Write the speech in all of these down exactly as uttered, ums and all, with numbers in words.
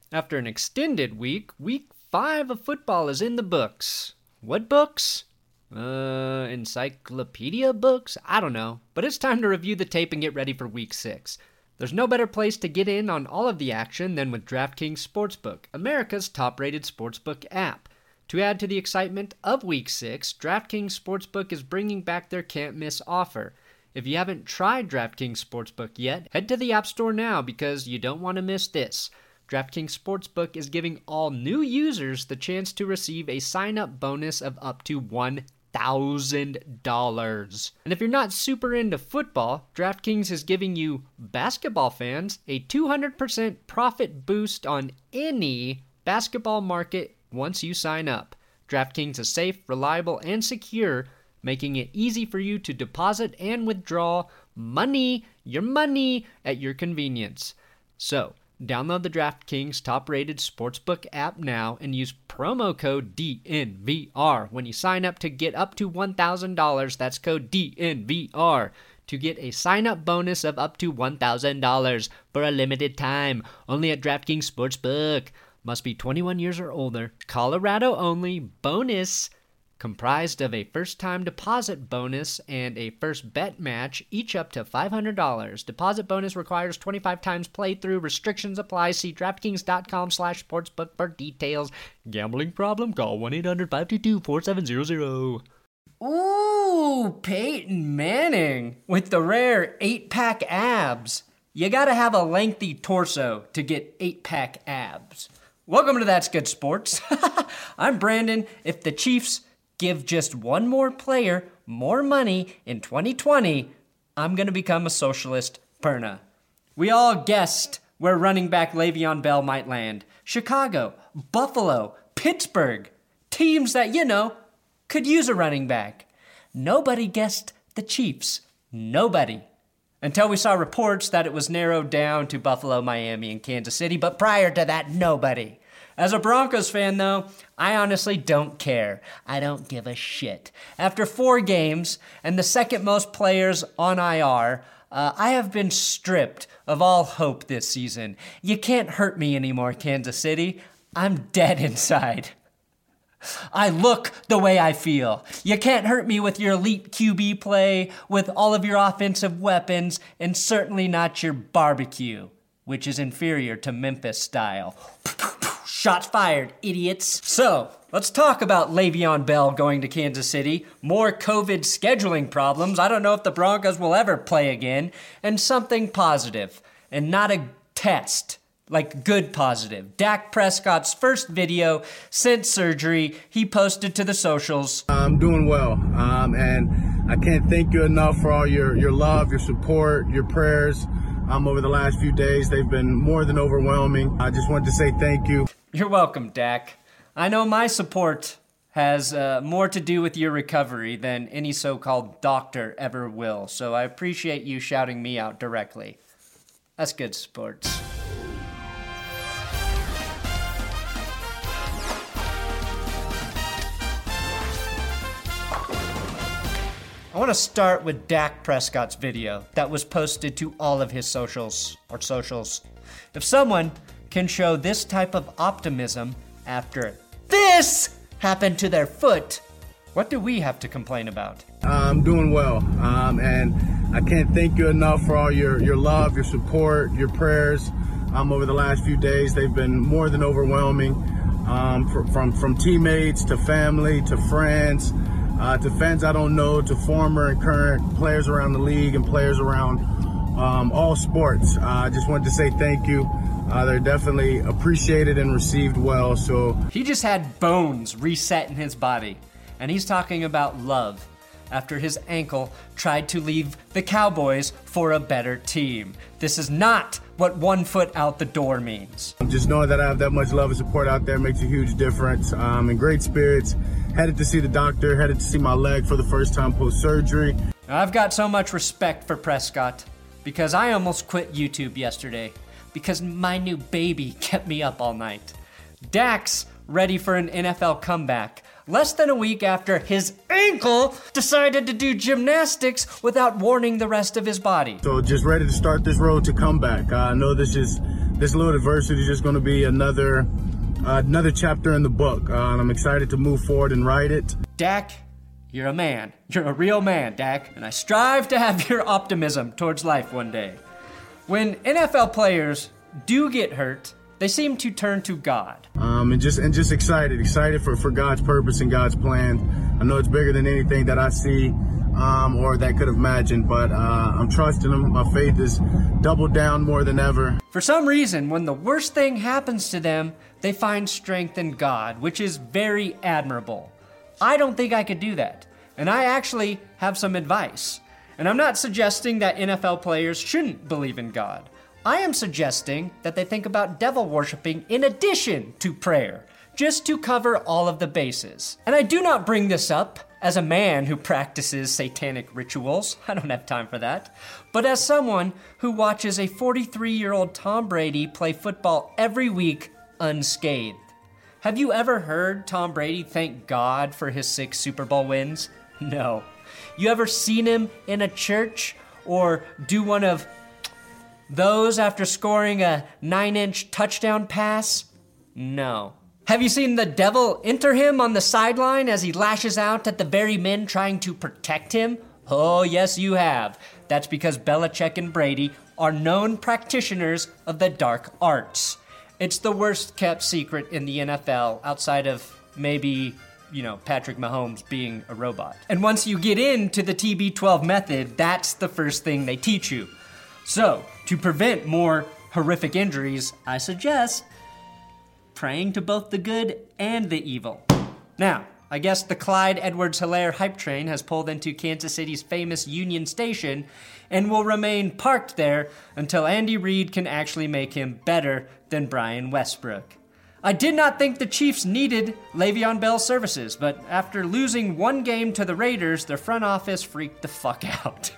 After an extended week, week five of football is in the books. What books? Uh, encyclopedia books? I don't know. But it's time to review the tape and get ready for week six. There's no better place to get in on all of the action than with DraftKings Sportsbook, America's top-rated sportsbook app. To add to the excitement of week six, DraftKings Sportsbook is bringing back their can't-miss offer. If you haven't tried DraftKings Sportsbook yet, head to the App Store now because you don't want to miss this. DraftKings Sportsbook is giving all new users the chance to receive a sign-up bonus of up to one thousand dollars. And if you're not super into football, DraftKings is giving you basketball fans a two hundred percent profit boost on any basketball market once you sign up. DraftKings is safe, reliable, and secure, making it easy for you to deposit and withdraw money, your money, at your convenience. So, download the DraftKings top-rated sportsbook app now and use promo code D N V R when you sign up to get up to one thousand dollars. That's code D N V R to get a sign-up bonus of up to one thousand dollars for a limited time. Only at DraftKings Sportsbook. Must be twenty-one years or older. Colorado only. Bonus. Comprised of a first-time deposit bonus and a first bet match, each up to five hundred dollars. Deposit bonus requires twenty-five times playthrough. Restrictions apply. See DraftKings.com slash sportsbook for details. Gambling problem? Call one eight hundred five two two four seven zero zero. Ooh, Peyton Manning with the rare eight-pack abs. You gotta have a lengthy torso to get eight-pack abs. Welcome to That's Good Sports. I'm Brandon. If the Chiefs give just one more player more money in twenty twenty, I'm going to become a socialist Perna. We all guessed where running back Le'Veon Bell might land. Chicago, Buffalo, Pittsburgh. Teams that, you know, could use a running back. Nobody guessed the Chiefs. Nobody. Until we saw reports that it was narrowed down to Buffalo, Miami, and Kansas City. But prior to that, nobody. As a Broncos fan, though, I honestly don't care. I don't give a shit. After four games and the second most players on I R, uh, I have been stripped of all hope this season. You can't hurt me anymore, Kansas City. I'm dead inside. I look the way I feel. You can't hurt me with your elite Q B play, with all of your offensive weapons, and certainly not your barbecue, which is inferior to Memphis style. Shots fired, idiots. So, let's talk about Le'Veon Bell going to Kansas City, more COVID scheduling problems, I don't know if the Broncos will ever play again, and something positive, and not a test, like good positive. Dak Prescott's first video since surgery, he posted to the socials. I'm doing well, um, and I can't thank you enough for all your, your love, your support, your prayers. Um, over the last few days, they've been more than overwhelming. I just wanted to say thank you. You're welcome, Dak. I know my support has uh, more to do with your recovery than any so-called doctor ever will, so I appreciate you shouting me out directly. That's good sports. I want to start with Dak Prescott's video that was posted to all of his socials, or socials. If someone can show this type of optimism after this happened to their foot, what do we have to complain about? I'm doing well, um, and I can't thank you enough for all your, your love, your support, your prayers. Um, over the last few days, they've been more than overwhelming, um, from, from, from teammates to family to friends. Uh, to fans I don't know, to former and current players around the league and players around um, all sports. Uh, I just wanted to say thank you. Uh, they're definitely appreciated and received well. So he just had bones reset in his body, and he's talking about love after his ankle tried to leave the Cowboys for a better team. This is not what one foot out the door means. Just knowing that I have that much love and support out there makes a huge difference. Um, in great spirits. Headed to see the doctor, headed to see my leg for the first time post-surgery. I've got so much respect for Prescott because I almost quit YouTube yesterday because my new baby kept me up all night. Dak's ready for an N F L comeback less than a week after his ankle decided to do gymnastics without warning the rest of his body. So just ready to start this road to comeback. Uh, I know this is this little adversity is just going to be another uh, another chapter in the book. Uh, and I'm excited to move forward and write it. Dak, you're a man. You're a real man, Dak. And I strive to have your optimism towards life one day. When N F L players do get hurt, they seem to turn to God. Um, and just and just excited, excited for, for God's purpose and God's plan. I know it's bigger than anything that I see um, or that could have imagined, but uh, I'm trusting Him. My faith is doubled down more than ever. For some reason, when the worst thing happens to them, they find strength in God, which is very admirable. I don't think I could do that, and I actually have some advice. And I'm not suggesting that N F L players shouldn't believe in God. I am suggesting that they think about devil worshiping in addition to prayer, just to cover all of the bases. And I do not bring this up as a man who practices satanic rituals. I don't have time for that. But as someone who watches a forty-three-year-old Tom Brady play football every week unscathed. Have you ever heard Tom Brady thank God for his six Super Bowl wins? No. You ever seen him in a church or do one of those after scoring a nine-inch touchdown pass? No. Have you seen the devil enter him on the sideline as he lashes out at the very men trying to protect him? Oh, yes, you have. That's because Belichick and Brady are known practitioners of the dark arts. It's the worst-kept secret in the N F L outside of maybe, you know, Patrick Mahomes being a robot. And once you get into the T B twelve method, that's the first thing they teach you. So, to prevent more horrific injuries, I suggest praying to both the good and the evil. Now, I guess the Clyde Edwards-Helaire hype train has pulled into Kansas City's famous Union Station and will remain parked there until Andy Reid can actually make him better than Brian Westbrook. I did not think the Chiefs needed Le'Veon Bell's services, but after losing one game to the Raiders, their front office freaked the fuck out.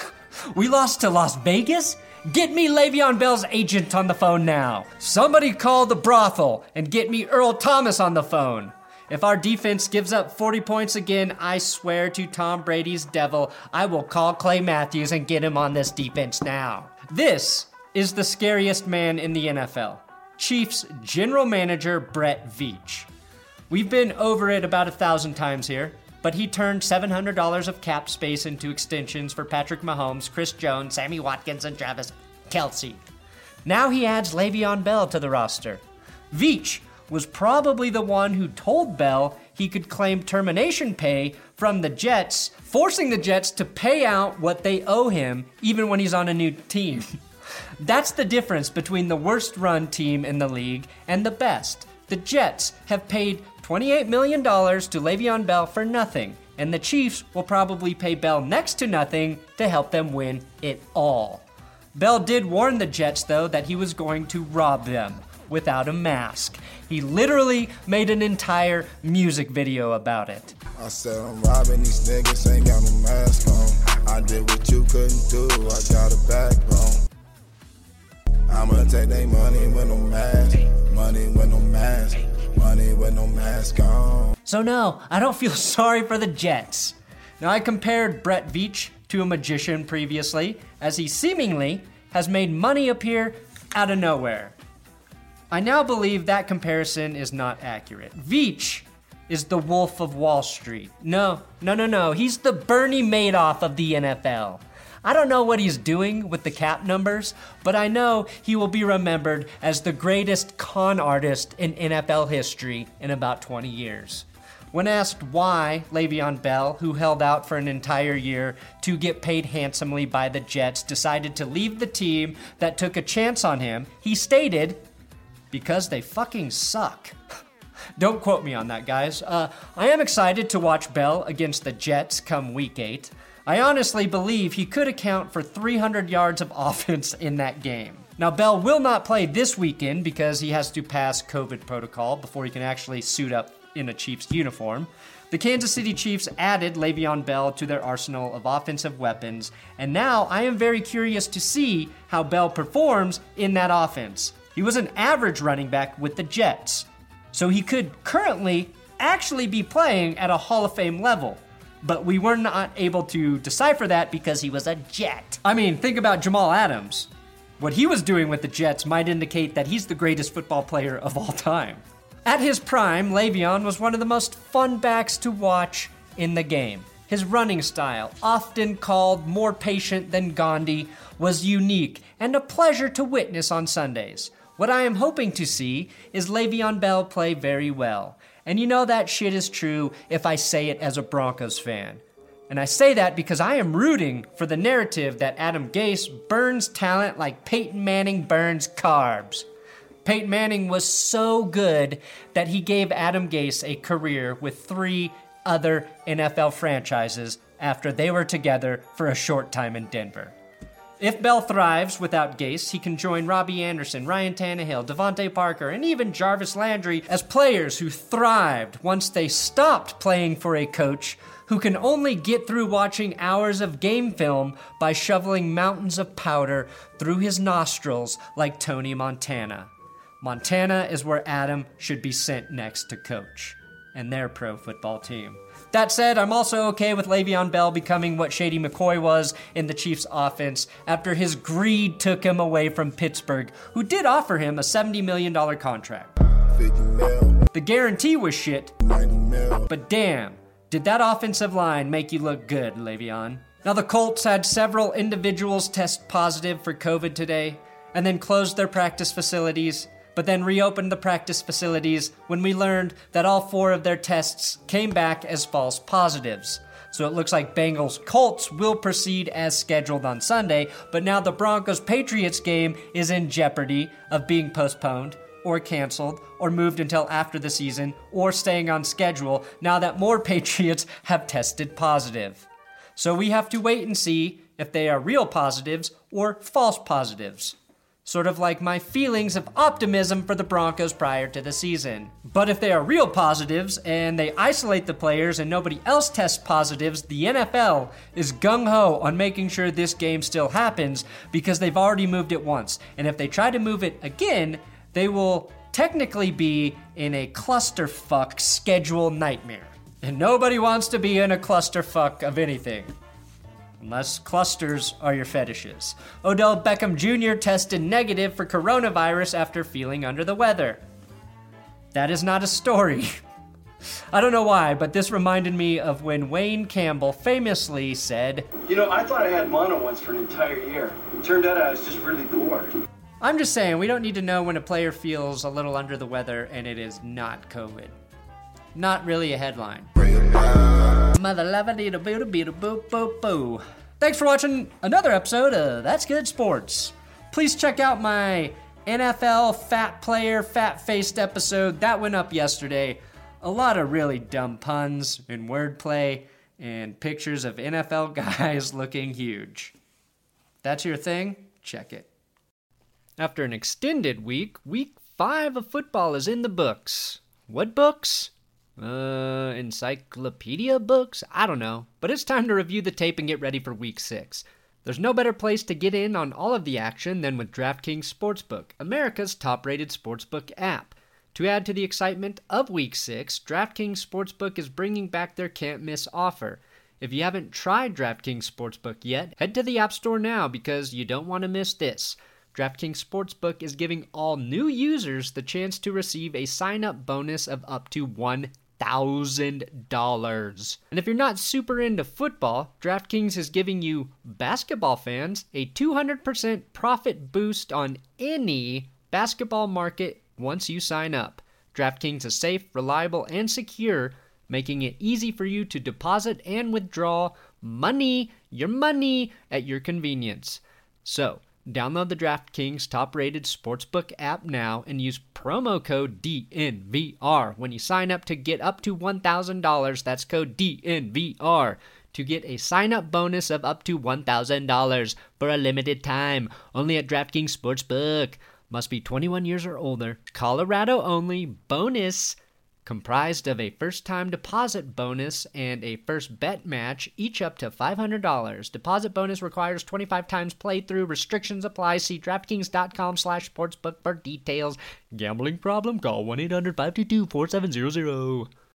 We lost to Las Vegas? Get me Le'Veon Bell's agent on the phone now. Somebody call the brothel and get me Earl Thomas on the phone. If our defense gives up forty points again, I swear to Tom Brady's devil, I will call Clay Matthews and get him on this defense now. This is the scariest man in the N F L. Chiefs general manager Brett Veach. We've been over it about a thousand times here, but he turned seven hundred dollars of cap space into extensions for Patrick Mahomes, Chris Jones, Sammy Watkins, and Travis Kelce. Now he adds Le'Veon Bell to the roster. Veach was probably the one who told Bell he could claim termination pay from the Jets, forcing the Jets to pay out what they owe him even when he's on a new team. That's the difference between the worst run team in the league and the best. The Jets have paid twenty-eight million dollars to Le'Veon Bell for nothing, and the Chiefs will probably pay Bell next to nothing to help them win it all. Bell did warn the Jets, though, that he was going to rob them without a mask. He literally made an entire music video about it. I said I'm robbing these niggas, ain't got no mask on. I did what you couldn't do, I got a backbone. I'ma take they money with no mask, money with no mask, money with no mask on. So no, I don't feel sorry for the Jets. Now, I compared Brett Veach to a magician previously, as he seemingly has made money appear out of nowhere. I now believe that comparison is not accurate. Veach is the Wolf of Wall Street. No, no, no, no. He's the Bernie Madoff of the N F L. I don't know what he's doing with the cap numbers, but I know he will be remembered as the greatest con artist in N F L history in about twenty years. When asked why Le'Veon Bell, who held out for an entire year to get paid handsomely by the Jets, decided to leave the team that took a chance on him, he stated, "Because they fucking suck." Don't quote me on that, guys. Uh, I am excited to watch Bell against the Jets come week eight. I honestly believe he could account for three hundred yards of offense in that game. Now, Bell will not play this weekend because he has to pass COVID protocol before he can actually suit up in a Chiefs uniform. The Kansas City Chiefs added Le'Veon Bell to their arsenal of offensive weapons, and now I am very curious to see how Bell performs in that offense. He was an average running back with the Jets, so he could currently actually be playing at a Hall of Fame level. But we were not able to decipher that because he was a Jet. I mean, think about Jamal Adams. What he was doing with the Jets might indicate that he's the greatest football player of all time. At his prime, Le'Veon was one of the most fun backs to watch in the game. His running style, often called more patient than Gandhi, was unique and a pleasure to witness on Sundays. What I am hoping to see is Le'Veon Bell play very well. And you know that shit is true if I say it as a Broncos fan. And I say that because I am rooting for the narrative that Adam Gase burns talent like Peyton Manning burns carbs. Peyton Manning was so good that he gave Adam Gase a career with three other N F L franchises after they were together for a short time in Denver. If Bell thrives without Gase, he can join Robbie Anderson, Ryan Tannehill, Devontae Parker, and even Jarvis Landry as players who thrived once they stopped playing for a coach who can only get through watching hours of game film by shoveling mountains of powder through his nostrils like Tony Montana. Montana is where Adam should be sent next to coach and their pro football team. That said, I'm also okay with Le'Veon Bell becoming what Shady McCoy was in the Chiefs' offense after his greed took him away from Pittsburgh, who did offer him a seventy million dollars contract. fifty mil, The guarantee was shit, ninety mil. but damn, did that offensive line make you look good, Le'Veon? Now, the Colts had several individuals test positive for COVID today, and then closed their practice facilities, but then reopened the practice facilities when we learned that all four of their tests came back as false positives. So it looks like Bengals-Colts will proceed as scheduled on Sunday, but now the Broncos-Patriots game is in jeopardy of being postponed, or canceled, or moved until after the season, or staying on schedule now that more Patriots have tested positive. So we have to wait and see if they are real positives or false positives. Sort of like my feelings of optimism for the Broncos prior to the season. But if they are real positives and they isolate the players and nobody else tests positives, the N F L is gung-ho on making sure this game still happens because they've already moved it once. And if they try to move it again, they will technically be in a clusterfuck schedule nightmare. And nobody wants to be in a clusterfuck of anything. Unless clusters are your fetishes. Odell Beckham Junior tested negative for coronavirus after feeling under the weather. That is not a story. I don't know why, but this reminded me of when Wayne Campbell famously said, You know, I thought I had mono once for an entire year. It turned out I was just really bored. I'm just saying, we don't need to know when a player feels a little under the weather and it is not COVID. Not really a headline. Mother love it, a boo boo boo boo boo. Thanks for watching another episode of That's Good Sports. Please check out my N F L fat player, fat faced episode that went up yesterday. A lot of really dumb puns and wordplay and pictures of N F L guys looking huge. That's your thing? Check it. After an extended week, week five of football is in the books. What books? Uh, encyclopedia books? I don't know. But it's time to review the tape and get ready for week six. There's no better place to get in on all of the action than with DraftKings Sportsbook, America's top-rated sportsbook app. To add to the excitement of week six, DraftKings Sportsbook is bringing back their can't-miss offer. If you haven't tried DraftKings Sportsbook yet, head to the App Store now because you don't want to miss this. DraftKings Sportsbook is giving all new users the chance to receive a sign-up bonus of up to one thousand dollars. And if you're not super into football, DraftKings is giving you basketball fans a two hundred percent profit boost on any basketball market once you sign up. DraftKings is safe, reliable, and secure, making it easy for you to deposit and withdraw money, your money, at your convenience. So, download the DraftKings top-rated sportsbook app now and use promo code D N V R when you sign up to get up to one thousand dollars. That's code D N V R to get a sign-up bonus of up to one thousand dollars for a limited time. Only at DraftKings Sportsbook. Must be twenty-one years or older. Colorado only. Bonus. Comprised of a first-time deposit bonus and a first bet match, each up to five hundred dollars. Deposit bonus requires twenty-five times playthrough. Restrictions apply. See DraftKings.com slash sportsbook for details. Gambling problem? Call one eight hundred five two two four seven zero zero.